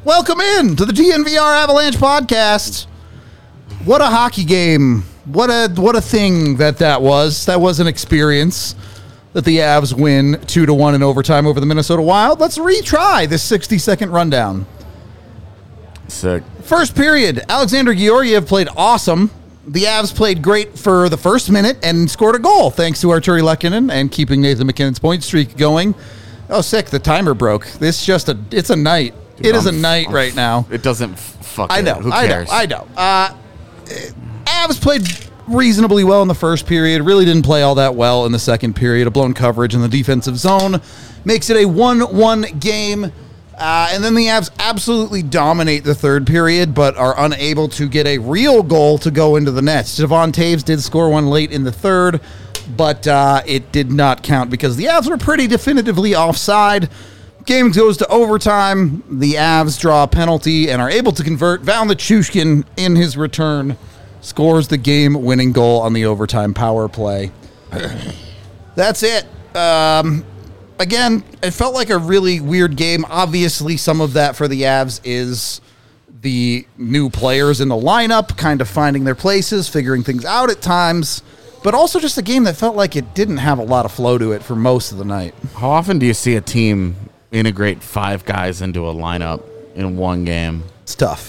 Welcome in to the DNVR Avalanche podcast. What a hockey game. What a thing that was. That was an experience that the Avs win 2-1 in overtime over the Minnesota Wild. Let's retry this 60-second rundown. Sick. First period, Alexander Georgiev played awesome. The Avs played great for the first minute and scored a goal thanks to Arturi Lehkonen and keeping Nathan MacKinnon's point streak going. Oh, sick. The timer broke. It's a night. Dude, it is a night right now. It doesn't fuck I it. know. Who cares? I know. Avs played reasonably well in the first period. Really didn't play all that well in the second period. A blown coverage in the defensive zone makes it a 1-1 game. And then the Avs absolutely dominate the third period, but are unable to get a real goal to go into the nets. Devon Taves did score one late in the third, but it did not count because the Avs were pretty definitively offside. Game goes to overtime. The Avs draw a penalty and are able to convert. Val Nichushkin, in his return, scores the game-winning goal on the overtime power play. That's it. Again, it felt like a really weird game. Obviously, some of that for the Avs is the new players in the lineup, kind of finding their places, figuring things out at times, but also just a game that felt like it didn't have a lot of flow to it for most of the night. How often do you see a team integrate 5 guys into a lineup in one game? It's tough.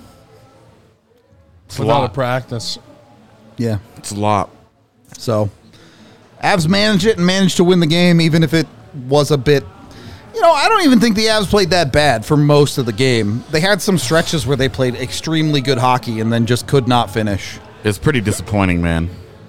It's Without a practice. Yeah. It's a lot. So, Avs managed it and managed to win the game, even if it was a bit... I don't even think the Avs played that bad for most of the game. They had some stretches where they played extremely good hockey and then just could not finish. It's pretty disappointing, man.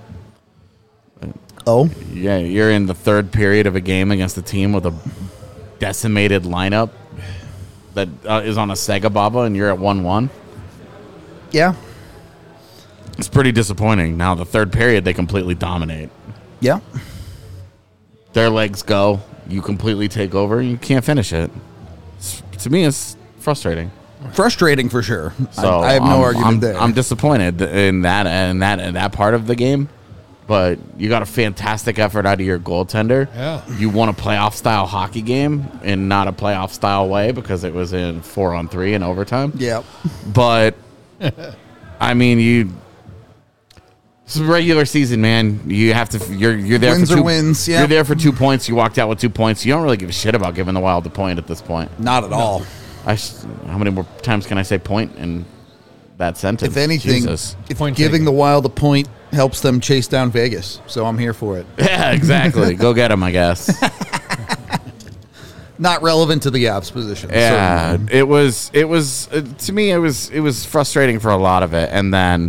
Oh? Yeah, you're in the third period of a game against a team with a decimated lineup that is on a Sega Baba, and you're at 1-1. Yeah. It's pretty disappointing. Now, the third period, they completely dominate. Yeah. Their legs go. You completely take over. You can't finish it. To me, it's frustrating. Frustrating for sure. So I have no argument there. I'm disappointed in that part of the game. But you got a fantastic effort out of your goaltender. Yeah. You won a playoff-style hockey game in not a playoff-style way because it was in 4-on-3 in overtime. Yeah. But, I mean, it's a regular season, man. You have to. You're there Wins for 2 or wins. Yeah. You're there for 2 points. You walked out with 2 points. You don't really give a shit about giving the Wild the point at this point. Not at all. How many more times can I say point in that sentence? If anything, Jesus. if Point giving taken. the Wild a point helps them chase down Vegas, so I'm here for it. Yeah, exactly. Go get him, I guess. Not relevant to the Avs position. Yeah, certainly. it was to me it was frustrating for a lot of it, and then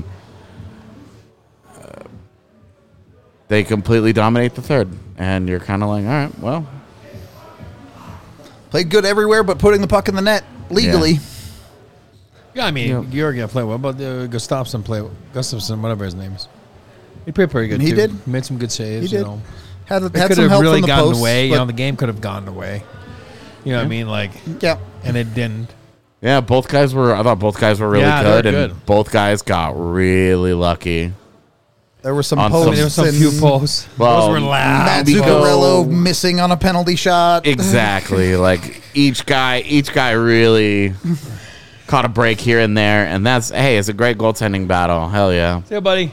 they completely dominate the third, and you're kind of like, all right, well, Played good everywhere, but putting the puck in the net legally. Yeah. Yeah, I mean, Yeah. Georgiev played well, but Gustafsson, whatever his name is. He played pretty good, He too. did. Made some good saves, He did. You know. Had It had could some have help really from the gotten posts, away. but- The game could have gone away. You know what I mean? Like, yeah. and it didn't. yeah, I thought both guys were really Yeah, they were good, and good. both guys got really lucky. There were some On posts. some- There were some and few posts. Well, Those were loud. Matt Nico- Zuccarello missing on a penalty shot. Exactly. Like each guy really caught a break here and there, and it's a great goaltending battle. Hell yeah. See ya, buddy.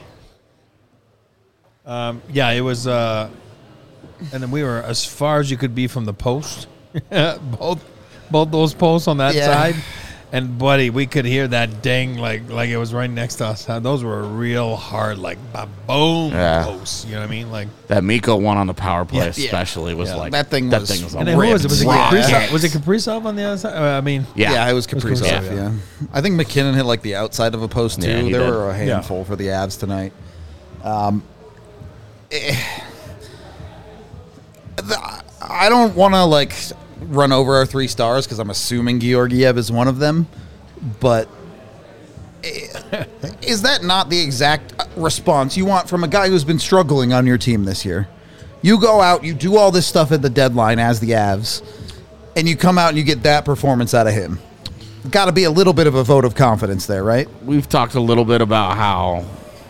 Yeah, it was, and then we were as far as you could be from the post. both those posts on that Yeah. side. And, buddy, we could hear that ding like it was right next to us. Those were real hard, like, boom Yeah. posts. You know what I mean? Like, That Miko one on the power play Yeah. especially was Yeah. like That thing was and then who was it? Was it ripped. Kaprizov? Was it Kaprizov on the other side? I mean, yeah. it was Kaprizov, Kaprizov, yeah. I think McKinnon hit like the outside of a post too. Yeah, he there did. were a handful for the Avs tonight. I don't want to like run over our 3 stars because I'm assuming Georgiev is one of them, but is that not the exact response you want from a guy who's been struggling on your team this year? You go out, you do all this stuff at the deadline as the Avs, and you come out and you get that performance out of him. Got to be a little bit of a vote of confidence there, right? We've talked a little bit about how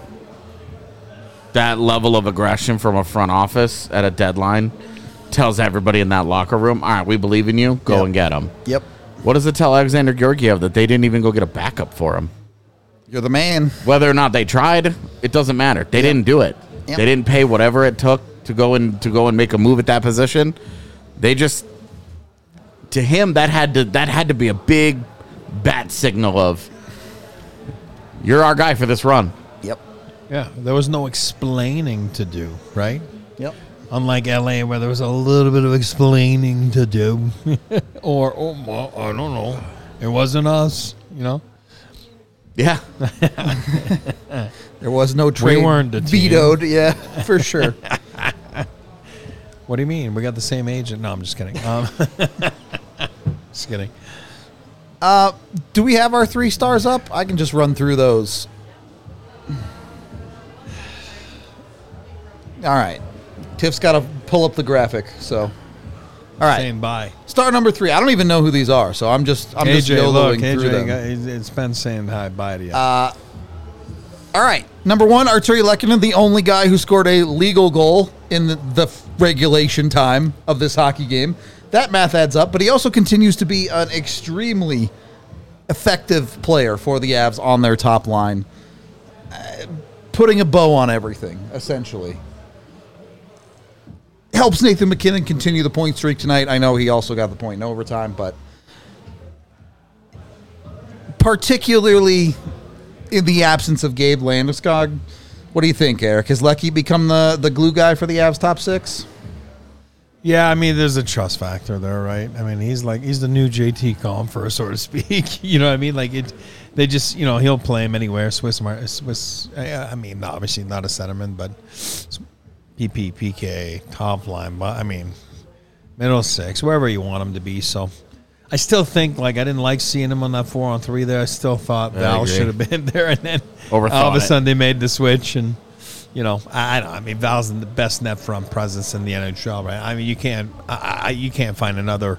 that level of aggression from a front office at a deadline tells everybody in that locker room, all right, we believe in you, go Yep. and get them. Yep. What does it tell Alexander Georgiev that they didn't even go get a backup for him? You're the man. Whether or not they tried, it doesn't matter. They didn't do it. Yep. They didn't pay whatever it took to go and make a move at that position. They just, to him, that had to be a big bat signal of, you're our guy for this run. Yep. Yeah, there was no explaining to do, right? Yep. Unlike LA, where there was a little bit of explaining to do, or well, I don't know, it wasn't us, you know. Yeah. There was no trade weren't the team. vetoed. Yeah, for sure. What do you mean? We got the same agent? No, I'm just kidding. Just kidding. Do we have our 3 stars up? I can just run through those. All right. Tiff's got to pull up the graphic. So, all right. Same bye. Star number 3. I don't even know who these are, so I'm just AJ, look, YOLOing through them. it's been saying hi, bye to you. All right. Number 1, Arturi Lehkonen, the only guy who scored a legal goal in the regulation time of this hockey game. That math adds up, but he also continues to be an extremely effective player for the Avs on their top line, putting a bow on everything, essentially. Helps Nathan MacKinnon continue the point streak tonight. I know he also got the point in overtime, but particularly in the absence of Gabe Landeskog, what do you think, Eric? Has Lecky become the glue guy for the Avs top 6? Yeah, I mean, there's a trust factor there, right? I mean, he's the new JT Compher, so to speak. You know what I mean? Like they just, you know, he'll play him anywhere. Swiss. I mean, obviously not a centerman, but PP, PK, top line. But I mean, middle 6, wherever you want him to be. So I still think, like, I didn't like seeing him on that 4-on-3 there. I still thought Val should have been there, and then all of a sudden they made the switch and. You know, I don't. I mean, Val's the best net front presence in the NHL, right? I mean, you can't find another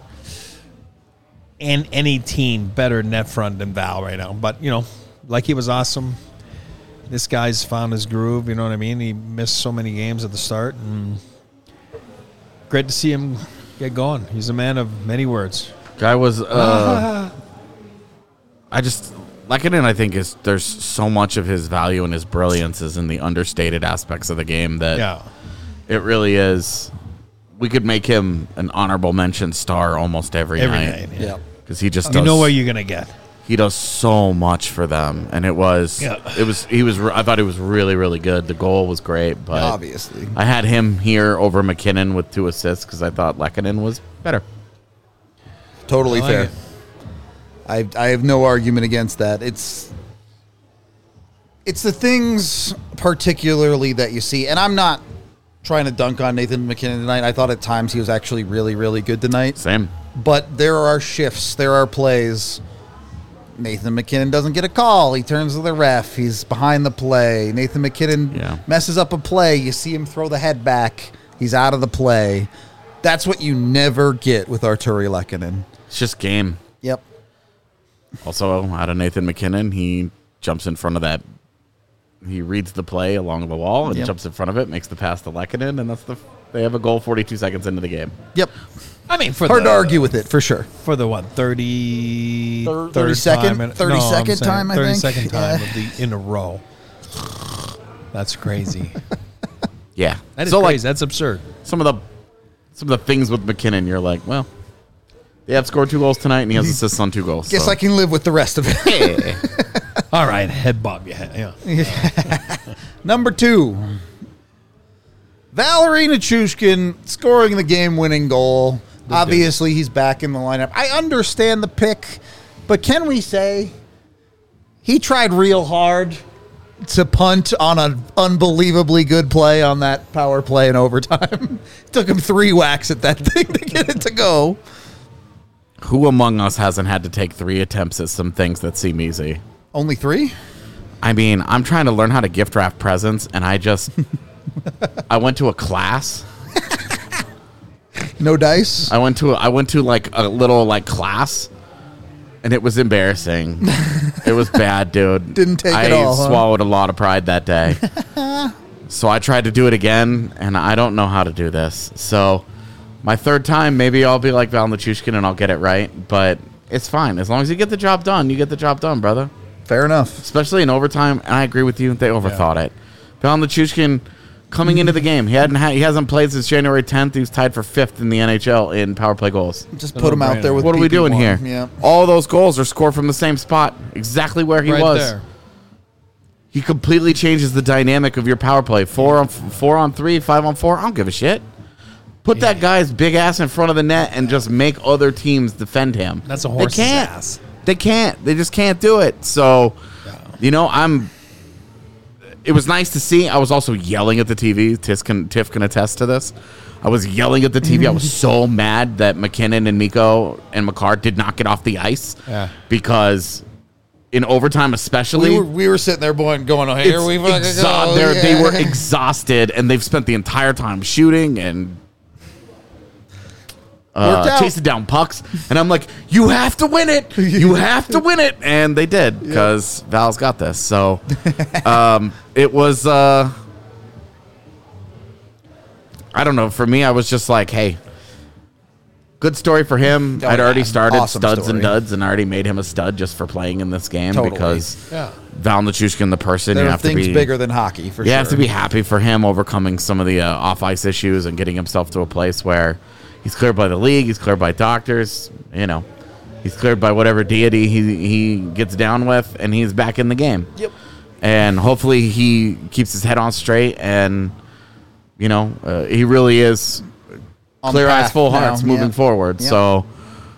any team better net front than Val right now. But you know, like, he was awesome. This guy's found his groove. You know what I mean? He missed so many games at the start, and great to see him get going. He's a man of many words. Guy was. Lehkonen, I think, there's so much of his value and his brilliance is in the understated aspects of the game that it really is. We could make him an honorable mention star almost every night. Yeah, because he just you know what you're gonna get. He does so much for them, and I thought he was really, really good. The goal was great, but obviously I had him here over McKinnon with 2 assists because I thought Lehkonen was better. Totally fair. I have no argument against that. It's the things particularly that you see, and I'm not trying to dunk on Nathan MacKinnon tonight. I thought at times he was actually really, really good tonight. Same. But there are shifts. There are plays. Nathan MacKinnon doesn't get a call. He turns to the ref. He's behind the play. Nathan MacKinnon messes up a play. You see him throw the head back. He's out of the play. That's what you never get with Arturi Lehkonen. It's just game. Yep. Also, out of Nathan MacKinnon, he jumps in front of that. He reads the play along the wall and jumps in front of it, makes the pass to Lehkonen, and they have a goal 42 seconds into the game. Yep. I mean, hard to argue with it, for sure. For the, 30 second time, time, I think. 32nd time in a row. That's crazy. Yeah. That is crazy. That's absurd. Some of the things with MacKinnon, you're like, well, they have scored 2 goals tonight, and he has assists on 2 goals. Guess I can live with the rest of it. Yeah. All right, head bob your head. Yeah. Number 2, Valeri Nichushkin scoring the game-winning goal. Obviously, he's back in the lineup. I understand the pick, but can we say he tried real hard to punt on an unbelievably good play on that power play in overtime? Took him 3 whacks at that thing to get it to go. Who among us hasn't had to take 3 attempts at some things that seem easy? Only 3? I mean, I'm trying to learn how to gift wrap presents, and I went to a class. No dice? I went to like a little like class, and it was embarrassing. It was bad, dude. Didn't take it all, I swallowed a lot of pride that day. So I tried to do it again, and I don't know how to do this. So my 3rd time, maybe I'll be like Val Nichushkin and I'll get it right. But It's fine. As long as you get the job done, you get the job done, brother. Fair enough. Especially in overtime, and I agree with you. They overthought it. Val Nichushkin coming into the game, he hasn't played since January 10th. He was tied for 5th in the NHL in power play goals. Just put him out there with what are we doing here? Yeah. All those goals are scored from the same spot, exactly where he was. There. He completely changes the dynamic of your power play. 4 on 3, 5 on 4. I don't give a shit. Put that guy's big ass in front of the net and just make other teams defend him. That's a horse's ass. They can't. They just can't do it. So, It was nice to see. I was also yelling at the TV. Tiff can attest to this. I was yelling at the TV. I was so mad that McKinnon and Mikko and Makar did not get off the ice because in overtime especially. We were sitting there going, oh, here we fucking go. They were exhausted, and they've spent the entire time shooting and chasing down pucks, and I'm like, you have to win it. You have to win it. And they did, because Val's got this. So it was, I don't know. For me, I was just like, hey, good story for him. I'd already started awesome studs story. and duds, and I already made him a stud just for playing in this game because Val Nichushkin, the person, There you are have to things be bigger than hockey, for sure. You have to be happy for him overcoming some of the off-ice issues and getting himself to a place where he's cleared by the league, he's cleared by doctors, he's cleared by whatever deity he gets down with, and he's back in the game. Yep. And hopefully he keeps his head on straight, and, he really is On clear the eyes, path full now. hearts moving forward. Yep. So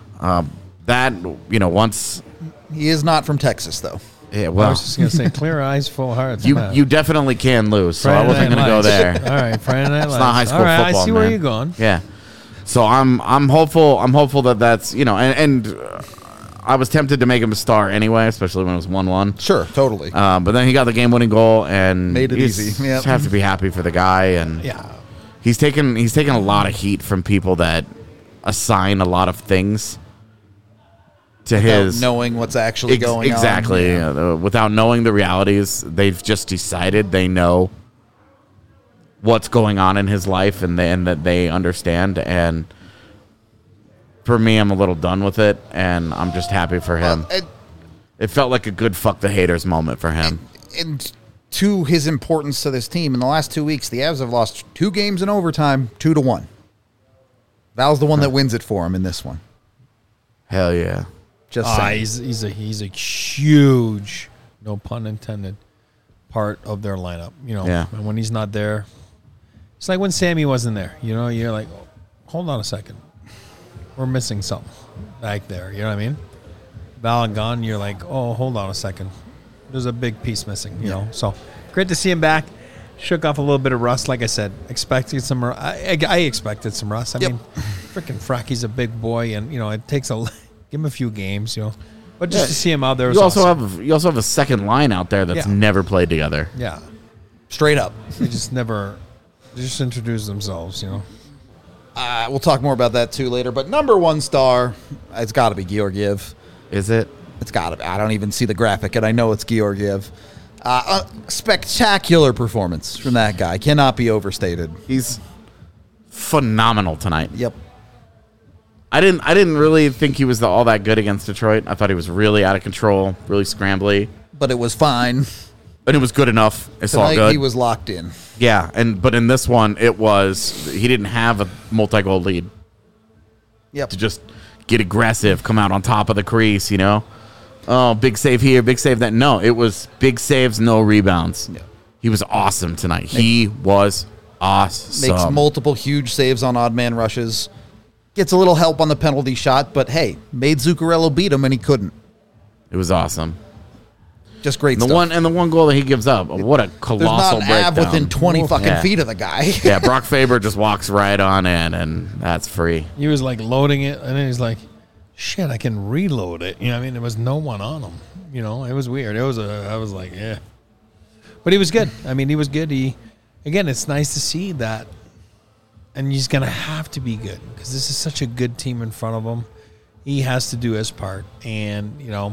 once... He is not from Texas, though. Yeah, I well, was just going to say, clear eyes, full hearts. you definitely can lose, so I Friday wasn't Night going to go Lights. there. All right, Friday Night Lights. It's not high school All right, football, I see man. where you're going. Yeah. So I'm hopeful. I'm hopeful that that's I was tempted to make him a star anyway, especially when it was 1-1. Sure, totally. But then he got the game-winning goal and Made it easy. Yep. Just have to be happy for the guy, and he's taken a lot of heat from people that assign a lot of things to Without knowing what's actually going on. exactly. Without knowing the realities, they've just decided they know what's going on in his life and that they understand. And for me, I'm a little done with it, and I'm just happy for him. It felt like a good fuck the haters moment for him. And to his importance to this team, in the last 2 weeks, the Avs have lost 2 games in overtime, 2-1. Val's the one that wins it for him in this one. Hell yeah. Just saying. He's a huge, no pun intended, part of their lineup. And when he's not there, it's like when Sammy wasn't there. You're like, hold on a second, we're missing something back there. You know what I mean? Val gone, you're like, oh, hold on a second, there's a big piece missing. You know, so great to see him back. Shook off a little bit of rust, like I said. Expected some. I expected some rust. I mean, freaking Fracky's a big boy, and it takes give him a few games, But just to see him out there, you also have a second line out there that's never played together. Yeah, Straight up. they just introduce themselves, We'll talk more about that too later. But number 1 star, it's got to be Georgiev. Is it? It's got to be. I don't even see the graphic, and I know it's Georgiev. A spectacular performance from that guy. Cannot be overstated. He's phenomenal tonight. Yep. I didn't really think he was all that good against Detroit. I thought he was really out of control, really scrambly. But it was fine. And it was good enough. It's all Tonight good. he was locked in. Yeah, but in this one, he didn't have a multi-goal lead. Yep. To just get aggressive, come out on top of the crease, Oh, big save here, big save that. No, it was big saves, no rebounds. Yeah. He was awesome tonight. He was awesome. Makes multiple huge saves on odd man rushes. Gets a little help on the penalty shot, but hey, made Zuccarello beat him and he couldn't. It was awesome. Just great stuff. The one goal that he gives up, what a colossal There's not an breakdown. Av within 20 fucking feet of the guy. Yeah, Brock Faber just walks right on in, and that's free. He was like loading it, and then he's like, shit, I can reload it. There was no one on him. It was weird. I was like, yeah. But he was good. He was good. Again, it's nice to see that. And he's going to have to be good because this is such a good team in front of him. He has to do his part. And,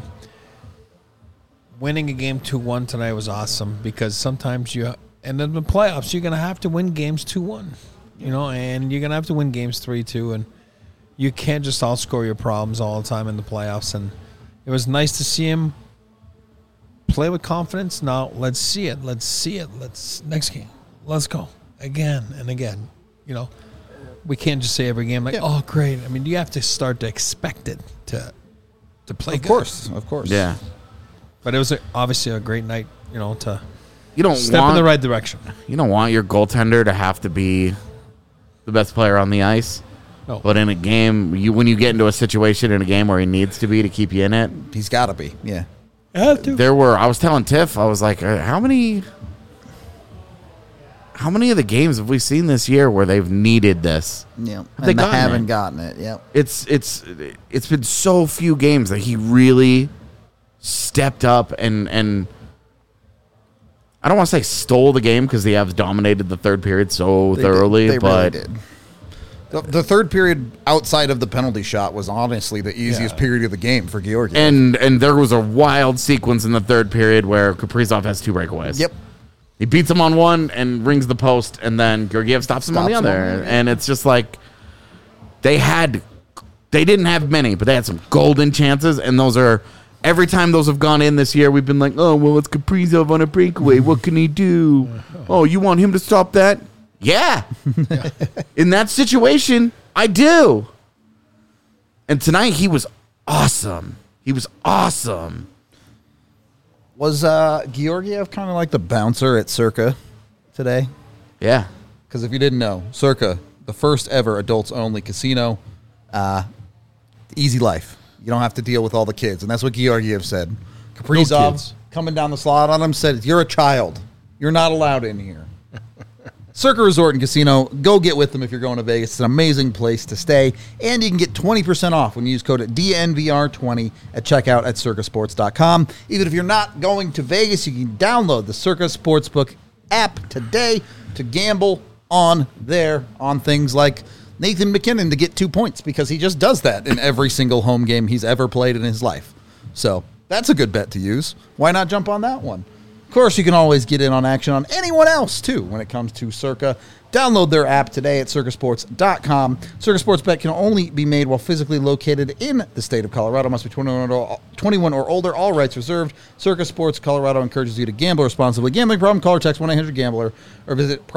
winning a game 2-1 tonight was awesome because sometimes and in the playoffs, you're going to have to win games 2-1, and you're going to have to win games 3-2. And You can't just outscore your problems all the time in the playoffs. And it was nice to see him play with confidence. Now, let's see it. Next game. Let's go. Again and again. We can't just say every game oh, great. I mean, you have to start to expect it to play good. Of course. Yeah. But it was obviously a great night, to you don't step in the right direction. You don't want your goaltender to have to be the best player on the ice. No. But in a game, when you get into a situation in a game where he needs to be to keep you in it, he's got to be. Yeah. I was telling Tiff, I was like, how many of the games have we seen this year where they've needed this? Yeah, they haven't gotten it. Yep. It's been so few games that he really stepped up and I don't want to say stole the game because the Avs dominated the third period thoroughly, but really did. The third period outside of the penalty shot was honestly the easiest period of the game for Georgiev. And there was a wild sequence in the third period where Kaprizov has 2 breakaways. Yep. He beats him on one and rings the post, and then Georgiev stops him on the other. And it's just like they didn't have many, but they had some golden chances, and those are every time those have gone in this year, we've been like, oh, well, it's Kaprizov on a breakaway. What can he do? Oh, you want him to stop that? Yeah. In that situation, I do. And tonight, he was awesome. Was Georgiev kind of like the bouncer at Circa today? Yeah. Because if you didn't know, Circa, the first ever adults-only casino, easy life. You don't have to deal with all the kids. And that's what Georgiev said. Kaprizov, coming down the slot on him, said, you're a child. You're not allowed in here. Circa Resort and Casino, go get with them if you're going to Vegas. It's an amazing place to stay. And you can get 20% off when you use code DNVR20 at checkout at circasports.com. Even if you're not going to Vegas, you can download the Circa Sportsbook app today to gamble on things like Nathan McKinnon to get 2 points because he just does that in every single home game he's ever played in his life. So that's a good bet to use. Why not jump on that one? Of course, you can always get in on action on anyone else, too, when it comes to Circa. Download their app today at circasports.com. Circa Sports Bet can only be made while physically located in the state of Colorado. Must be 21 or older. All rights reserved. Circa Sports Colorado encourages you to gamble responsibly. Gambling problem? Call or text 1-800-GAMBLER or visit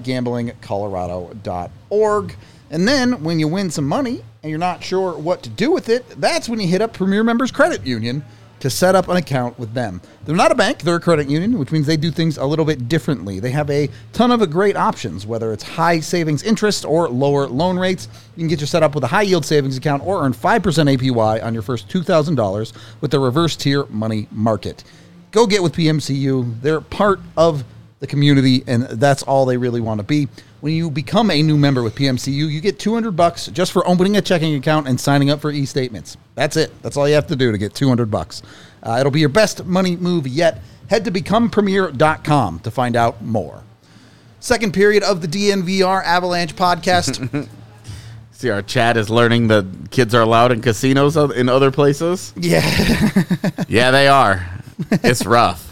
problemgamblingcolorado.org. And then when you win some money and you're not sure what to do with it, that's when you hit up Premier Members Credit Union to set up an account with them. They're not a bank, they're a credit union, which means they do things a little bit differently. They have a ton of great options, whether it's high savings interest or lower loan rates. You can get you set up with a high yield savings account or earn 5% APY on your first $2,000 with the reverse tier money market. Go get with PMCU. They're part of the community, and that's all they really want to be. When you become a new member with PMCU, you get $200 just for opening a checking account and signing up for e-statements. That's it. That's all you have to do to get $200. It'll be your best money move yet. Head to becomepremier.com to find out more. Second period of the DNVR Avalanche podcast. See, our chat is learning that kids are allowed in casinos in other places. Yeah. Yeah, they are. It's rough.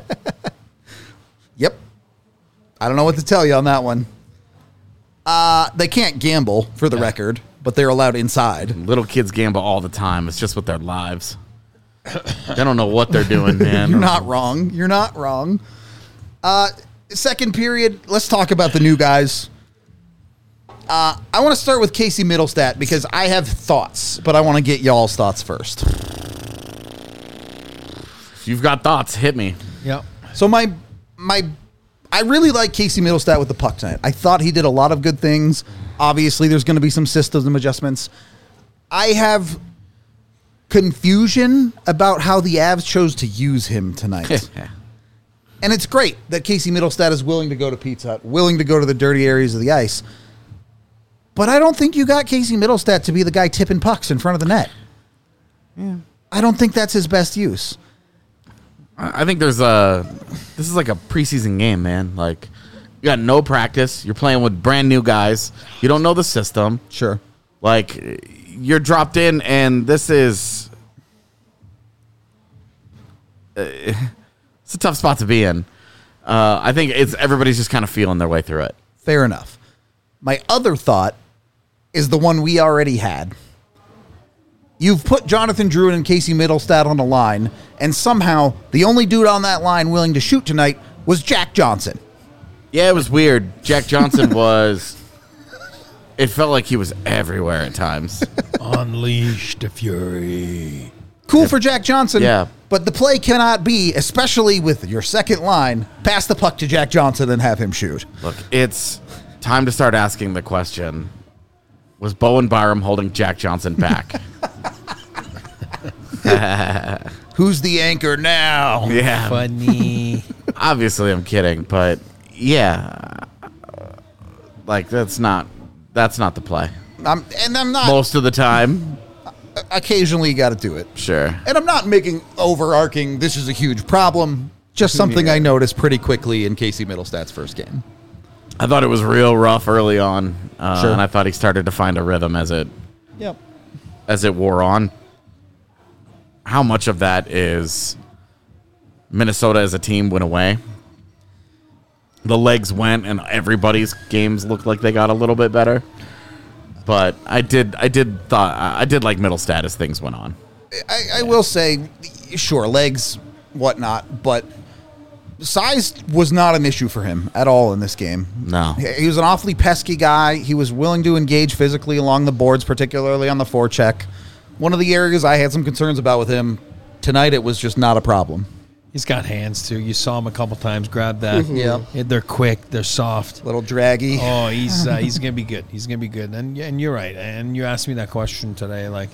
Yep. I don't know what to tell you on that one. They can't gamble, for the record, but they're allowed inside. Little kids gamble all the time. It's just with their lives. They don't know what they're doing, man. You're not wrong. You're not wrong. Second period, let's talk about the new guys. I want to start with Casey Mittelstadt because I have thoughts, but I want to get y'all's thoughts first. If you've got thoughts, hit me. Yep. So I really like Casey Mittelstadt with the puck tonight. I thought he did a lot of good things. Obviously, there's going to be some system adjustments. I have confusion about how the Avs chose to use him tonight. And it's great that Casey Mittelstadt is willing to go to Pizza Hut, willing to go to the dirty areas of the ice. But I don't think you got Casey Mittelstadt to be the guy tipping pucks in front of the net. Yeah. I don't think that's his best use. I think this is like a preseason game, man. Like, you got no practice. You're playing with brand new guys. You don't know the system. Sure. Like, you're dropped in, and this is it's a tough spot to be in. I think everybody's just kind of feeling their way through it. Fair enough. My other thought is the one we already had. You've put Jonathan Druin and Casey Middlestat on the line, and somehow the only dude on that line willing to shoot tonight was Jack Johnson. Yeah, it was weird. Jack Johnson was... It felt like he was everywhere at times. Unleash the fury. Cool for Jack Johnson, Yeah. but the play cannot be, especially with your second line, pass the puck to Jack Johnson and have him shoot. Look, it's time to start asking the question, was Bowen Byram holding Jack Johnson back? Who's the anchor now? Yeah. Funny. Obviously, I'm kidding, but yeah. Like, that's not the play. I'm not. Most of the time, Occasionally, you got to do it. sure. And I'm not making overarching, this is a huge problem. Just something I noticed pretty quickly in Casey Middlestat's first game. I thought it was real rough early on, Sure. and I thought he started to find a rhythm as it wore on. How much of that is Minnesota as a team went away? The legs went, and everybody's games looked like they got a little bit better. But I did like Middlestat as things went on. I will say, sure, legs, whatnot, but size was not an issue for him at all in this game. No. He was an awfully pesky guy. He was willing to engage physically along the boards, particularly on the forecheck. One of the areas I had some concerns about with him, tonight it was just not a problem. He's got hands, too. You saw him a couple times grab that. Yeah. They're quick. They're soft. Little draggy. Oh, he's going to be good. He's going to be good. And you're right. And you asked me that question today. Like,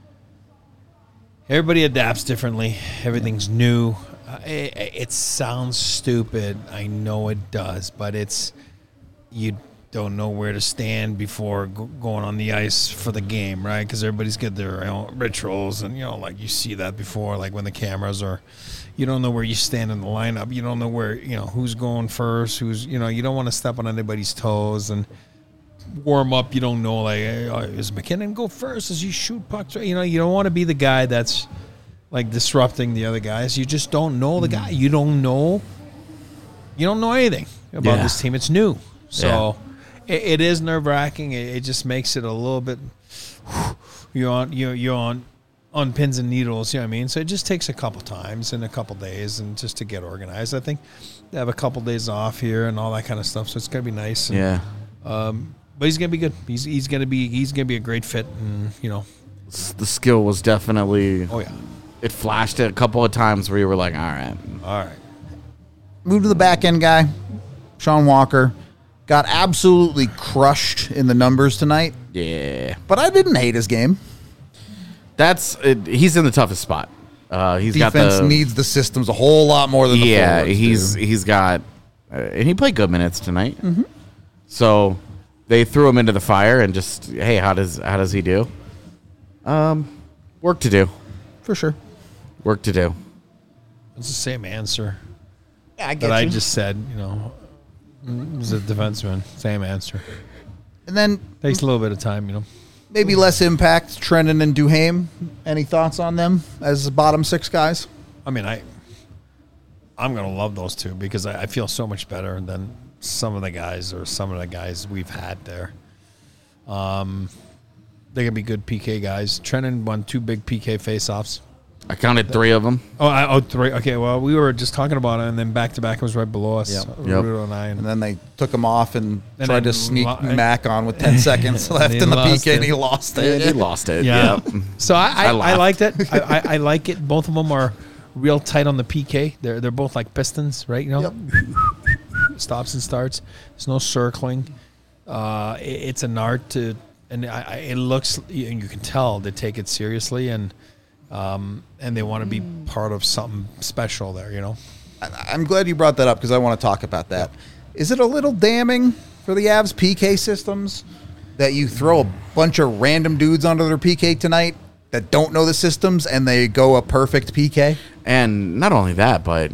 everybody adapts differently. Everything's new. It sounds stupid. I know it does. But you don't know where to stand before going on the ice for the game, right? Because everybody's got their rituals. And, like you see that before, like when the cameras are... You don't know where you stand in the lineup. You don't know where, who's going first, you don't want to step on anybody's toes and warm up. You don't know, like, is McKinnon go first? Does he shoot pucks? You don't want to be the guy that's, like, disrupting the other guys. You just don't know the guy. You don't know anything about this team. It's new. So it is nerve-wracking. It just makes it a little bit, you're on pins and needles, you know what I mean? So it just takes a couple times and a couple days and just to get organized. I think they have a couple days off here and all that kind of stuff, so it's going to be nice. And, but he's going to be good. He's going to be a great fit, and The skill was definitely... Oh, yeah. It flashed a couple of times where you were like, all right. Move to the back end guy, Sean Walker. Got absolutely crushed in the numbers tonight. Yeah. But I didn't hate his game. He's in the toughest spot. Defense needs the systems a whole lot more than the forwards he's got, and he played good minutes tonight. Mm-hmm. So they threw him into the fire and just, hey, how does he do? Work to do for sure. Work to do. It's the same answer Yeah, I get that you. I just said. As a defenseman, same answer. And then Takes a little bit of time, maybe less impact. Trennan and Duhaime. Any thoughts on them as bottom six guys? I mean, I'm going to love those two because I feel so much better than some of the guys we've had there. They're going to be good PK guys. Trennan won 2 big PK faceoffs. I counted 3 of them. Oh, 3. Okay, well, we were just talking about it, and then back-to-back was right below us. Yep. Rudo and I. And then they took him off and tried then to sneak Mac on with 10 seconds left They in the lost PK, it. and he lost it. He lost it. Yeah. Yep. So I laughed. liked it. I like it. Both of them are real tight on the PK. They're both like pistons, right? Yep. Stops and starts. There's no circling. It's an art to, and it looks, and you can tell they take it seriously, and they want to be part of something special there. I'm glad you brought that up because I want to talk about that. Is it a little damning for the Avs PK systems that you throw a bunch of random dudes onto their PK tonight that don't know the systems and they go a perfect PK? And not only that, but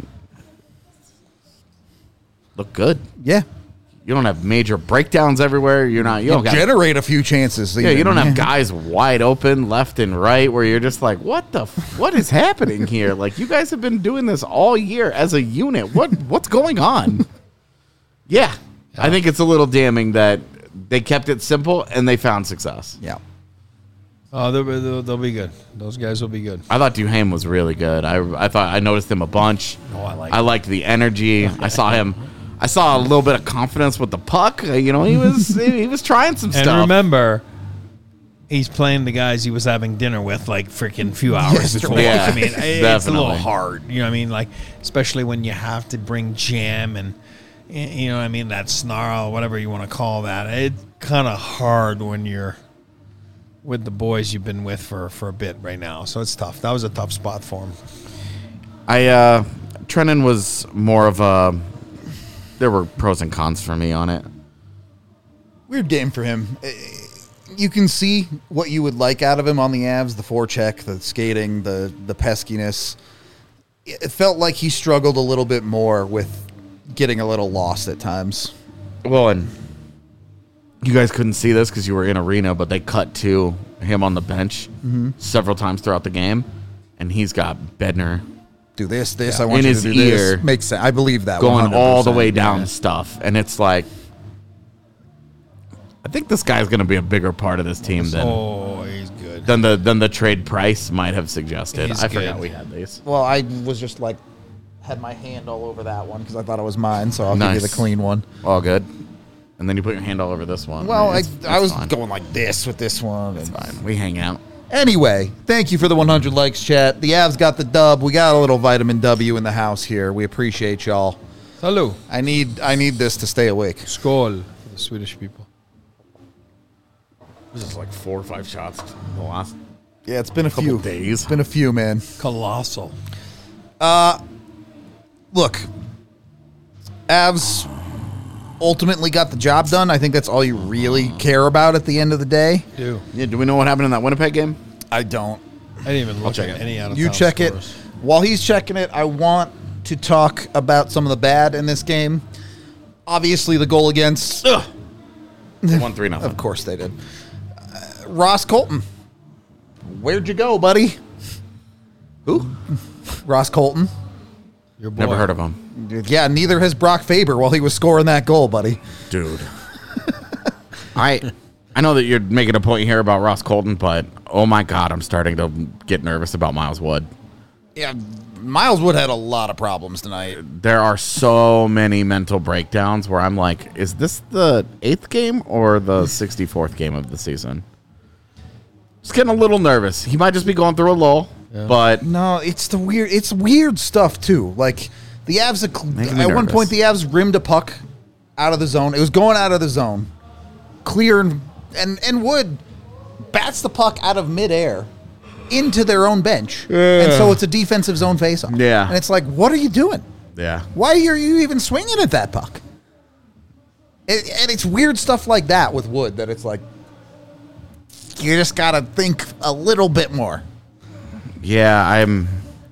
look good. Yeah. You don't have major breakdowns everywhere. You don't Generate a few chances. Yeah, you don't have guys wide open left and right where you're just like, what is happening here? Like, you guys have been doing this all year as a unit. What's going on? Yeah. I think it's a little damning that they kept it simple and they found success. Yeah. Oh, they'll be good. Those guys will be good. I thought Duhaime was really good. I thought I noticed him a bunch. Oh, I liked the energy. I saw a little bit of confidence with the puck. He was trying some And stuff. remember, he's playing the guys he was having dinner with like freaking few hours before. Yeah, I mean, it's a definitely. little hard. You know what I mean? Like, especially when you have to bring jam and, you know what I mean, that snarl, whatever you want to call that. It's kind of hard when you're with the boys you've been with for a bit right now. So it's tough. That was a tough spot for him. Trenton was more of a. There were pros and cons for me on it. Weird game for him. You can see what you would like out of him on the Avs, the forecheck, the skating, the peskiness. It felt like he struggled a little bit more with getting a little lost at times. Well, and you guys couldn't see this because you were in arena, but they cut to him on the bench several times throughout the game, and he's got Bednar Do this. I want in you his to do ear. this. Makes sense. I believe that. going 100%. all the way down stuff, and it's like, I think this guy's going to be a bigger part of this team He's good. than the trade price might have suggested. He's I forgot good. we had these. Well, I was just like, had my hand all over that one because I thought it was mine, so I'll give you Nice. the clean one. All good. And then you put your hand all over this one. Well, It's I was fine. going like this with this one. It's fine. We hang out. Anyway, thank you for the 100 likes, chat. The Avs got the dub. We got a little vitamin W in the house here. We appreciate y'all. Salut. I need this to stay awake. Skål for the Swedish people. This is like 4 or 5 shots in the last Yeah, it's been a couple few days. It's been a few, man. Colossal. Look, Avs ultimately got the job done. I think that's all you really care about at the end of the day. Do. Yeah, do we know what happened in that Winnipeg game? I don't. I didn't even look check at it. any out of You check it. While he's checking it, I want to talk about some of the bad in this game. Obviously, the goal against... Ugh. 1-3-0. Of course they did. Ross Colton. Where'd you go, buddy? Who? Ross Colton. Your boy. Never heard of him. Yeah, neither has Brock Faber while he was scoring that goal, buddy. Dude. I know that you're making a point here about Ross Colton, but oh my God, I'm starting to get nervous about Miles Wood. Yeah, Miles Wood had a lot of problems tonight. There are so many mental breakdowns where I'm like, is this the 8th game or the 64th game of the season? Just getting a little nervous. He might just be going through a lull, but No, it's weird stuff too. Like the Avs Making me at one nervous. point the Avs rimmed a puck out of the zone. It was going out of the zone. Clear and Wood bats the puck out of midair into their own bench. And so it's a defensive zone faceoff. Yeah. And it's like, what are you doing? yeah. Why are you even swinging at that puck? And it's weird stuff like that with Wood that it's like, you just got to think a little bit more. Yeah, I'm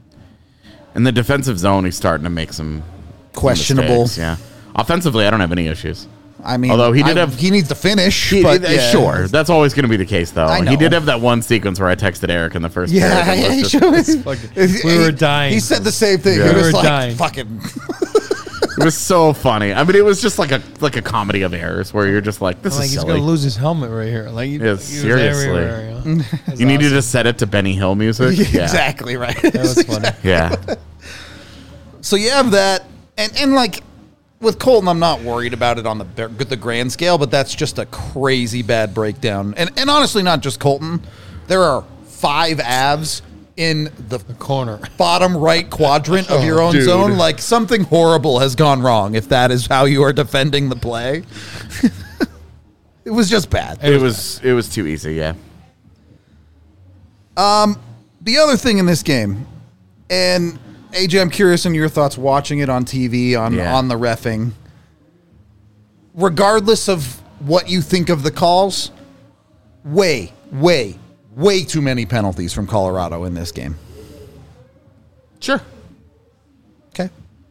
in the defensive zone. He's starting to make some Questionable. mistakes, yeah. Offensively, I don't have any issues. I mean, Although he did have- he needs to finish, He- but yeah. Sure, that's always going to be the case, though. I know. He did have that one sequence where I texted Eric in the first Yeah, period. and he was just- showed- We were dying. He said the same thing. Yeah. He We was were like, dying. fucking. It was so funny. I mean, it was just like a comedy of errors where you're just like, this Like is he's silly. gonna lose his helmet right here. Like Yeah, seriously. That's You needed awesome. to set it to Benny Hill music. Yeah. Exactly right. That was funny. Yeah. So you have that, and like with Colton, I'm not worried about it on the grand scale, but that's just a crazy bad breakdown. And honestly, not just Colton. There are 5 Avs in the Corner. bottom right quadrant of your own dude. zone. Like something horrible has gone wrong if that is how you are defending the play. It was just bad. It was too easy, yeah. The other thing in this game, and AJ, I'm curious on your thoughts watching it on TV, on the reffing. Regardless of what you think of the calls, way too many penalties from Colorado in this game. Sure. Okay.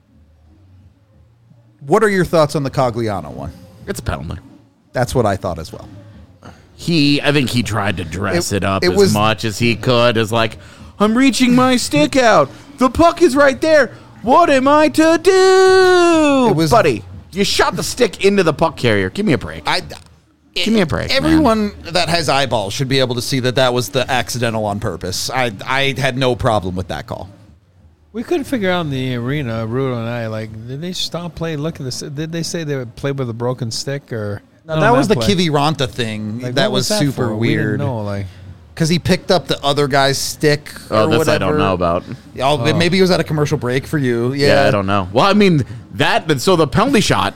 What are your thoughts on the Cogliano one? It's a penalty. That's what I thought as well. I think he tried to dress it up it as was- much as he could. As like, I'm reaching my stick out. The puck is right there. What am I to do? It was- Buddy, you shot the stick into the puck carrier. Give me a break. Give me a break. Everyone that has eyeballs should be able to see that was the accidental on purpose. I had no problem with that call. We couldn't figure out in the arena, Rudo and I, like, did they stop playing? Look at this. Did they say they would play with a broken stick or? No, that was the Kiviranta thing. Like, that was that super for? weird. No, like. Because he picked up the other guy's stick or this whatever. I don't know about. Oh, maybe it was at a commercial break for you. Yeah, I don't know. Well, I mean, so the penalty shot,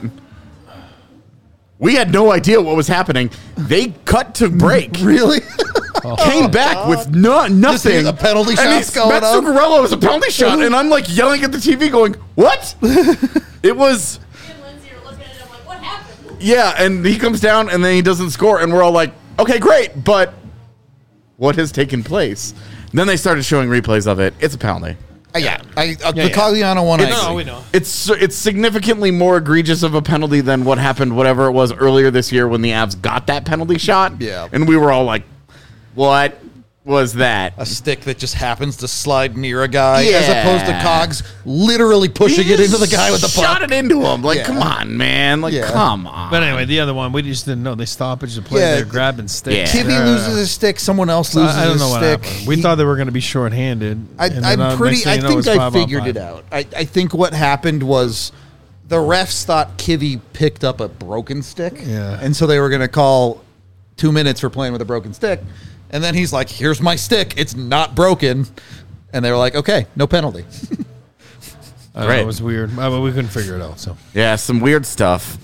we had no idea what was happening. They cut to break. Really? Came back with nothing. Just hear the penalty shots going Matt on. Zuccarello was a penalty shot, and I'm like yelling at the TV going, what? It was... Me and Lindsay are looking at it, I'm like, what happened? Yeah, and he comes down, and then he doesn't score, and we're all like, okay, great, but what has taken place? And then they started showing replays of it. It's a penalty. The Cogliano one. No, we know. It's significantly more egregious of a penalty than what happened, whatever it was earlier this year when the Avs got that penalty shot. Yeah. And we were all like, what was that? A stick that just happens to slide near a guy, Yeah. as opposed to Cogs literally pushing it into the guy with the shot puck. it into him. Like, Yeah. come on, man. Like, Yeah. come on. But anyway, the other one, we just didn't know. They stoppage the play. Yeah. They're grabbing sticks. Yeah. Kivy loses his stick. Someone else loses I don't know his what stick. happened. We thought they were going to be shorthanded. I think I figured it out. I think what happened was the refs thought Kivy picked up a broken stick. Yeah. And so they were going to call 2 minutes for playing with a broken stick. And then he's like, here's my stick. It's not broken. And they were like, okay, no penalty. Right. It was weird. But we couldn't figure it out. So Yeah, some weird stuff.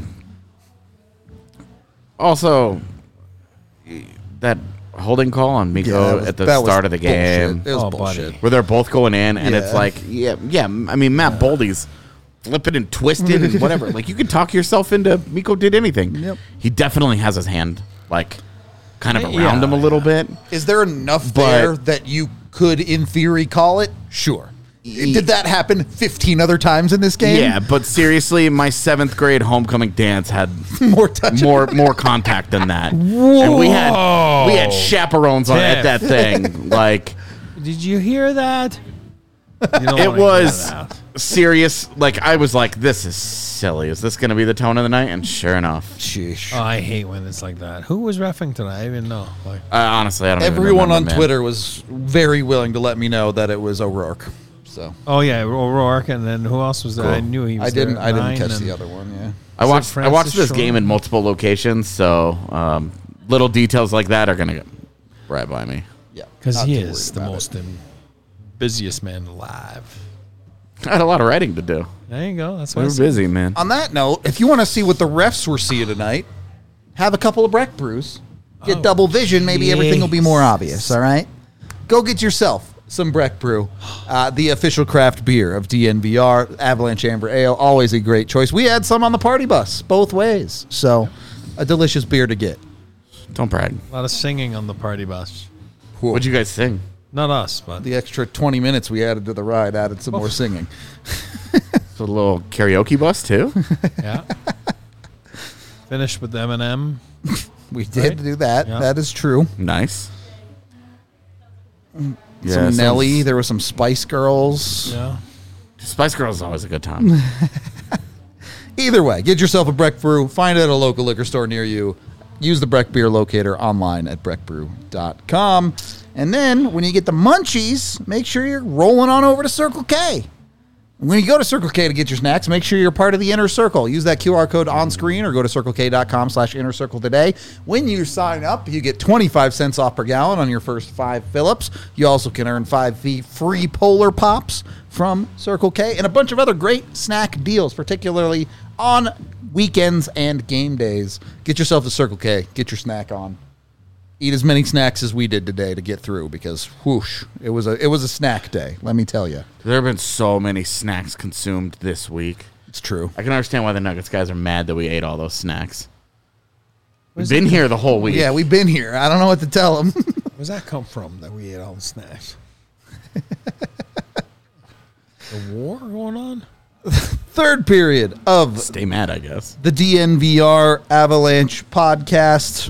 Also, that holding call on Mikko at the start of the game, It was Oh, bullshit. buddy. where they're both going in, and it's Yeah. like, yeah. I mean, Matt Boldy's flipping and twisted and whatever. Like, you can talk yourself into Mikko did anything. Yep. He definitely has his hand, like, kind of Yeah. around him a little bit. Is there enough But- there that you could, in theory, call it? Sure. Did that happen 15 other times in this game? Yeah, but seriously, my 7th grade homecoming dance had More touch. more contact than that. And we had chaperones on at that thing. Like, did you hear that? You don't it wanna was hear that. serious. Like, I was like, this is silly. Is this going to be the tone of the night? And sure enough. Sheesh. Oh, I hate when it's like that. Who was reffing tonight? I even know. Like, Honestly, I don't even Everyone remember, on man. Twitter was very willing to let me know that it was O'Rourke. So oh yeah, O'Rourke, and then who else was there? Cool. I knew he was I didn't there. catch Nine the and- other one. Yeah. I watched Francis this Shaw? game in multiple locations, so little details like that are going to get right by me. Yeah. Because not he too is worried the about most busiest man alive. I had a lot of writing to do. There you go. That's We what I were said. busy, man. On that note, if you want to see what the refs were seeing tonight, have a couple of Breck brews. Get Oh, double vision. Maybe everything will be more jeez. obvious. All right. Go get yourself some Breck Brew, the official craft beer of DNVR, Avalanche Amber Ale. Always a great choice. We had some on the party bus both ways. So a delicious beer to get. Don't brag. A lot of singing on the party bus. What'd you guys sing? Not us, but The extra 20 minutes we added to the ride added some more singing. So a little karaoke bus, too? yeah. Finished with Eminem. We did Right? do that. Yeah. That is true. Nice. Some Nelly. There were some Spice Girls. Yeah. Spice Girls is always a good time. Either way, get yourself a Breck Brew. Find it at a local liquor store near you. Use the Breck Beer Locator online at breckbrew.com. And then when you get the munchies, make sure you're rolling on over to Circle K. When you go to Circle K to get your snacks, make sure you're part of the Inner Circle. Use that QR code on screen or go to circlek.com/Inner Circle today. When you sign up, you get 25 cents off per gallon on your first 5 fill-ups. You also can earn 5 free Polar Pops from Circle K and a bunch of other great snack deals, particularly on weekends and game days. Get yourself to Circle K. Get your snack on. Eat as many snacks as we did today to get through because, whoosh, it was a snack day, let me tell you. There have been so many snacks consumed this week. It's true. I can understand why the Nuggets guys are mad that we ate all those snacks. We've been here the whole week. Yeah, we've been here. I don't know what to tell them. Where's that come from that we ate all the snacks? The war going on? Third period of Stay mad, I guess. the DNVR Avalanche podcast.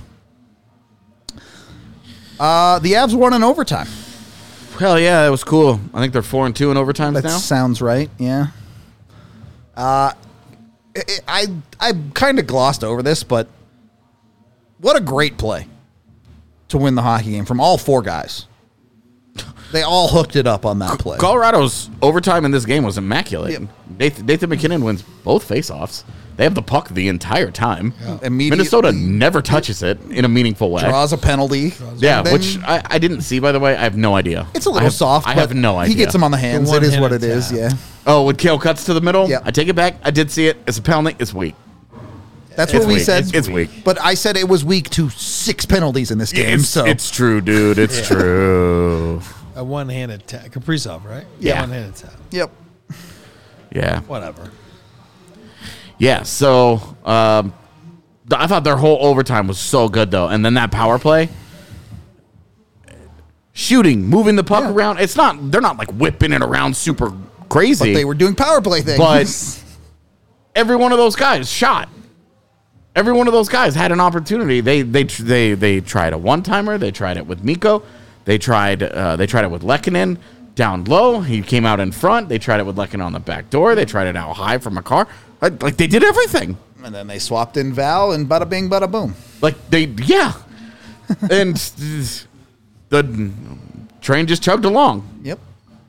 The Avs won in overtime. Hell yeah, that was cool. I think they're 4-2 in overtime That now. sounds right. Yeah. I kind of glossed over this, but what a great play to win the hockey game from all 4 guys. They all hooked it up on that play. Colorado's overtime in this game was immaculate. Yep. Nathan McKinnon wins both faceoffs. They have the puck the entire time. Immediately Minnesota never touches it in a meaningful way. draws a penalty. Yeah, Then which I didn't see, by the way. I have no idea. it's a little soft. I but have no idea. He gets him on the hands. The It is what one-handed it is. tap. Yeah, Oh, when Kale cuts to the middle? Yeah. I take it back. I did see it. It's a penalty. It's weak. that's It's what we weak. said. It's weak. But I said it was weak to 6 penalties in this game. So It's true, dude. It's true. A one-handed tap. Kaprizov, right? Yeah. One-handed tap. yep. Yeah. Whatever. Yeah, so I thought their whole overtime was so good, though. And then that power play, shooting, moving the puck Yeah. around. They're not like whipping it around super crazy. But they were doing power play things. But every one of those guys shot. Every one of those guys had an opportunity. They tried a one-timer. They tried it with Mikko. They tried it with Lehkonen down low. He came out in front. They tried it with Lehkonen on the back door. They tried it out high from a car. Like, they did everything. and then they swapped in Val, and bada bing, bada boom. And the train just chugged along. Yep.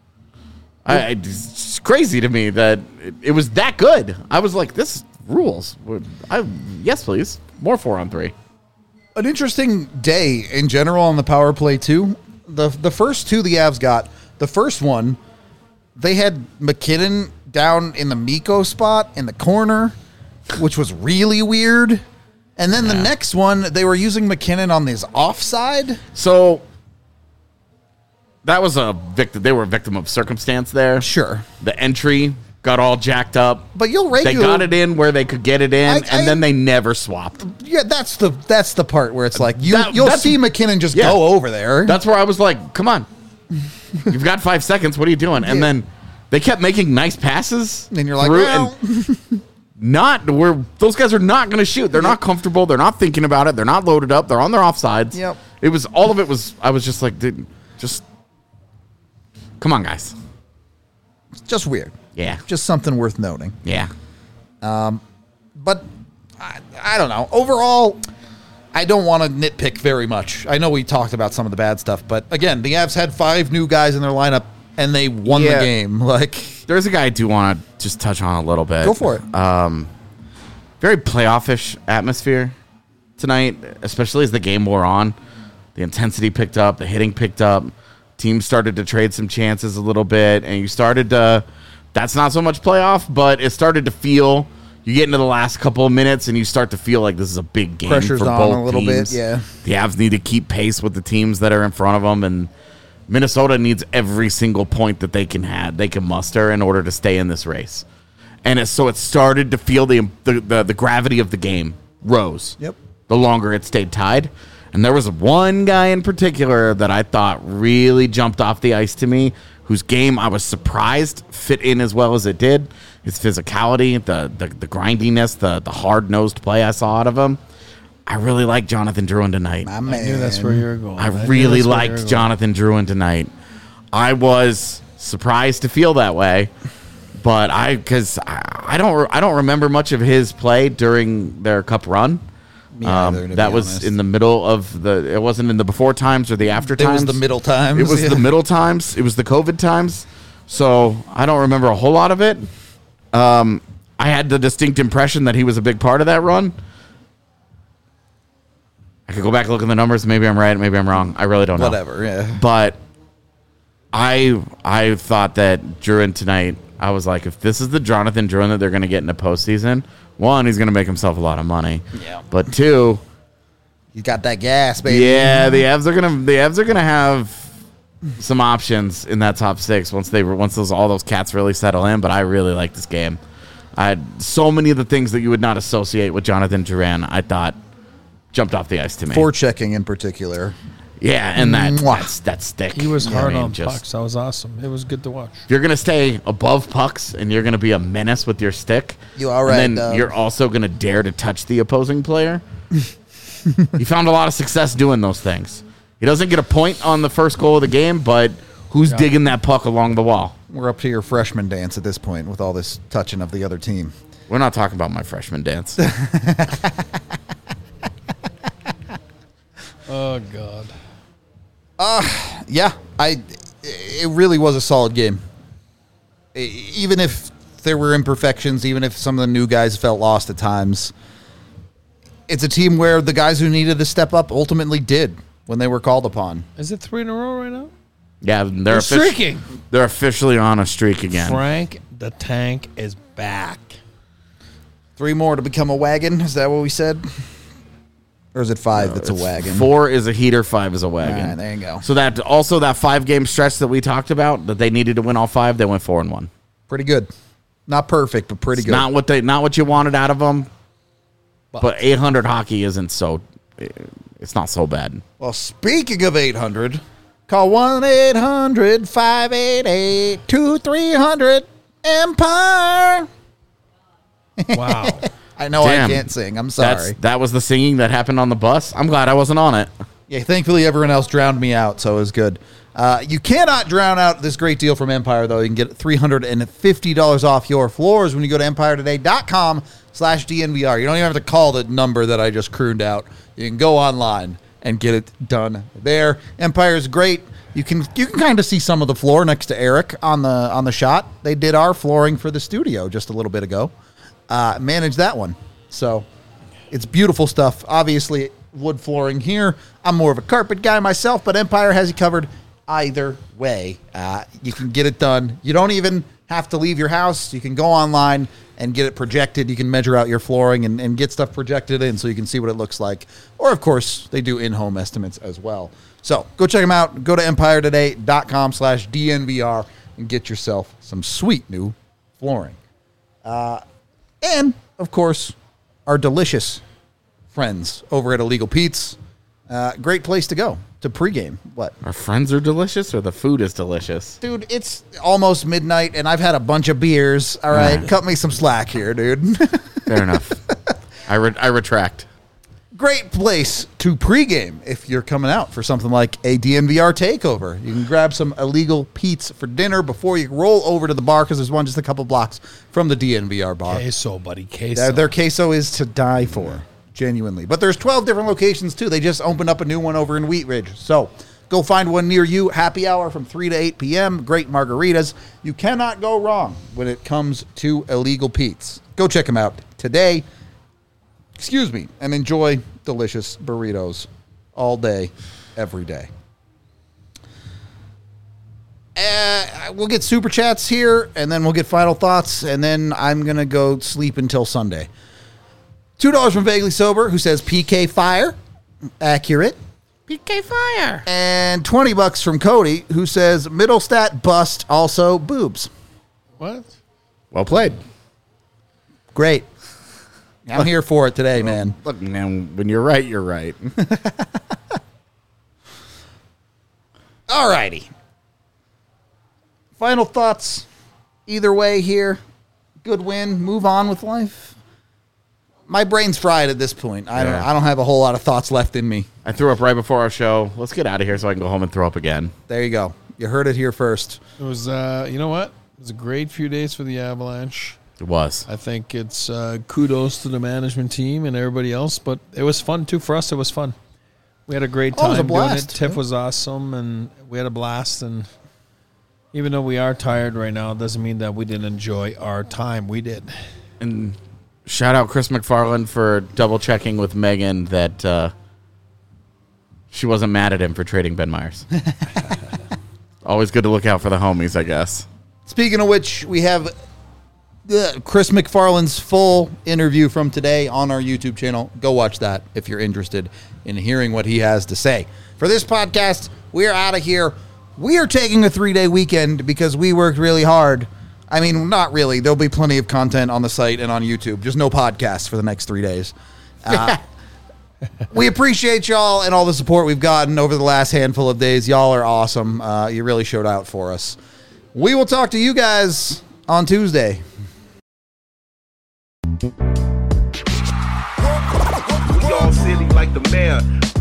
It's crazy to me that it was that good. I was like, this rules. Yes, please. More 4-on-3. An interesting day in general on the power play too. The first 2 the Avs got. The first one, they had McKinnon down in the Mikko spot in the corner, which was really weird. And then the next one, they were using McKinnon on his offside. So that was a victim. They were a victim of circumstance there. Sure, The entry got all jacked up. but you'll They regularly got it in where they could get it in, I- and then they never swapped. Yeah, that's the part where it's like you'll that's- see McKinnon just Yeah. go over there. That's where I was like, come on. You've got 5 seconds. What are you doing? And Yeah. then they kept making nice passes. and you're like, through, well, those guys are not going to shoot. They're not comfortable. They're not thinking about it. They're not loaded up. They're on their offsides. Yep. It was all of it was. I was just like, dude, just come on, guys. just weird. Yeah, Just something worth noting. yeah. But I don't know. Overall, I don't want to nitpick very much. I know we talked about some of the bad stuff, but again, the Avs had 5 new guys in their lineup, and they won the Yeah. game. Like, There's a guy I do want to just touch on a little bit. go for it. Very playoff-ish atmosphere tonight, especially as the game wore on. The intensity picked up, the hitting picked up. Teams started to trade some chances a little bit, and you started to. That's not so much playoff, but it started to feel. You get into the last couple of minutes, and you start to feel like this is a big game Pressure's for on both a little teams. bit, yeah. The Avs need to keep pace with the teams that are in front of them, and Minnesota needs every single point that they can muster in order to stay in this race. And so it started to feel the gravity of the game rose. Yep. The longer it stayed tied. And there was one guy in particular that I thought really jumped off the ice to me, whose game I was surprised fit in as well as it did. His physicality, the grindiness, the hard-nosed play I saw out of him. I really like Jonathan Drouin tonight. My I man. knew that's where you were going. I knew really that's where you were liked going. Jonathan Drouin tonight. I was surprised to feel that way, but I don't remember much of his play during their cup run. Me either, to That be was honest. in the middle of it wasn't in the before times or the after It times. was the middle times. It was yeah. the middle times. It was the COVID times. So I don't remember a whole lot of it. I had the distinct impression that he was a big part of that run. I could go back and look at the numbers. Maybe I'm right. Maybe I'm wrong. I really don't know. Whatever, yeah. But I thought that Drouin tonight, I was like, if this is the Jonathan Drouin that they're going to get in the postseason, one, he's going to make himself a lot of money. Yeah. But two, You got that gas, baby. yeah, the Avs are gonna have some options in that top 6 once all those cats really settle in. But I really like this game. I had so many of the things that you would not associate with Jonathan Drouin, I thought jumped off the ice to me. Forechecking in particular. Yeah, and Mwah. that's thick. He was You know what hard I mean? on Just- pucks. That was awesome. It was good to watch. You're going to stay above pucks, and you're going to be a menace with your stick. You all right, And then Dub. you're also going to dare to touch the opposing player. He found a lot of success doing those things. He doesn't get a point on the first goal of the game, but who's digging that puck along the wall? We're up to your freshman dance at this point with all this touching of the other team. We're not talking about my freshman dance. Oh, God. Yeah, it really was a solid game. Even if there were imperfections, even if some of the new guys felt lost at times, it's a team where the guys who needed to step up ultimately did when they were called upon. Is it 3 in a row right now? Yeah, they're streaking. They're officially on a streak again. Frank the Tank is back. 3 more to become a wagon. Is that what we said? Or is it 5 that's a wagon? 4 is a heater, 5 is a wagon. All right, there you go. So that 5-game stretch that we talked about, that they needed to win all 5, they went 4-1. Pretty good. Not perfect, but pretty good. Not what you wanted out of them. But 800 hockey isn't so. It's not so bad. Well, speaking of 800, call 1-800-588-2300 Empire. Wow. I know Damn. I can't sing. I'm sorry. That was the singing that happened on the bus. I'm glad I wasn't on it. Yeah, thankfully everyone else drowned me out, so it was good. You cannot drown out this great deal from Empire, though. You can get $350 off your floors when you go to EmpireToday.com/DNVR. You don't even have to call the number that I just crooned out. You can go online and get it done there. Empire is great. You can kind of see some of the floor next to Eric on the shot. They did our flooring for the studio just a little bit ago. Managed that one. So it's beautiful stuff. Obviously, wood flooring here. I'm more of a carpet guy myself, but Empire has you covered either way. You can get it done. You don't even have to leave your house. You can go online and get it projected. You can measure out your flooring and get stuff projected in so you can see what it looks like. Or, of course, they do in-home estimates as well. So go check them out. Go to EmpireToday.com/DNVR and get yourself some sweet new flooring. And, of course, our delicious friends over at Illegal Pete's. Great place to go to pregame. What? Our friends are delicious, or the food is delicious? Dude, it's almost midnight, and I've had a bunch of beers. All right, cut me some slack here, dude. Fair enough. I retract. Great place to pregame if you're coming out for something like a DNVR takeover. You can grab some Illegal Pete's for dinner before you roll over to the bar, because there's one just a couple blocks from the DNVR bar. Queso, buddy, queso. Their queso is to die for. Genuinely. But there's 12 different locations, too. They just opened up a new one over in Wheat Ridge. So go find one near you. Happy hour from 3 to 8 p.m. Great margaritas. You cannot go wrong when it comes to Illegal Pete's. Go check them out today. And enjoy delicious burritos all day, every day. We'll get super chats here, and then we'll get final thoughts, and then I'm going to go sleep until Sunday. $2 from Vaguely Sober, who says PK Fire. Accurate. PK Fire. And $20 from Cody, who says middle stat bust, also boobs. What? Well played. Great. I'm here for it today, man. Look, man, when you're right, you're right. All righty. Final thoughts. Either way here. Good win. Move on with life. My brain's fried at this point. I don't have a whole lot of thoughts left in me. I threw up right before our show. Let's get out of here so I can go home and throw up again. There you go. You heard it here first. It was, you know what? It was a great few days for the Avalanche. It was. I think it's kudos to the management team and everybody else, but it was fun, too. For us, it was fun. We had a great time it was a doing it. blast. Tiff was awesome, and we had a blast. And even though we are tired right now, it doesn't mean that we didn't enjoy our time. We did. And shout out Chris McFarland for double checking with Megan that she wasn't mad at him for trading Ben Myers. Always good to look out for the homies, I guess. Speaking of which, we have Chris McFarland's full interview from today on our YouTube channel. Go watch that if you're interested in hearing what he has to say. For this podcast, we're out of here. We are taking a 3-day weekend because we worked really hard. I mean, not really. There'll be plenty of content on the site and on YouTube. Just no podcasts for the next 3 days. We appreciate y'all and all the support we've gotten over the last handful of days. Y'all are awesome. You really showed out for us. We will talk to you guys on Tuesday. We all silly like the mayor.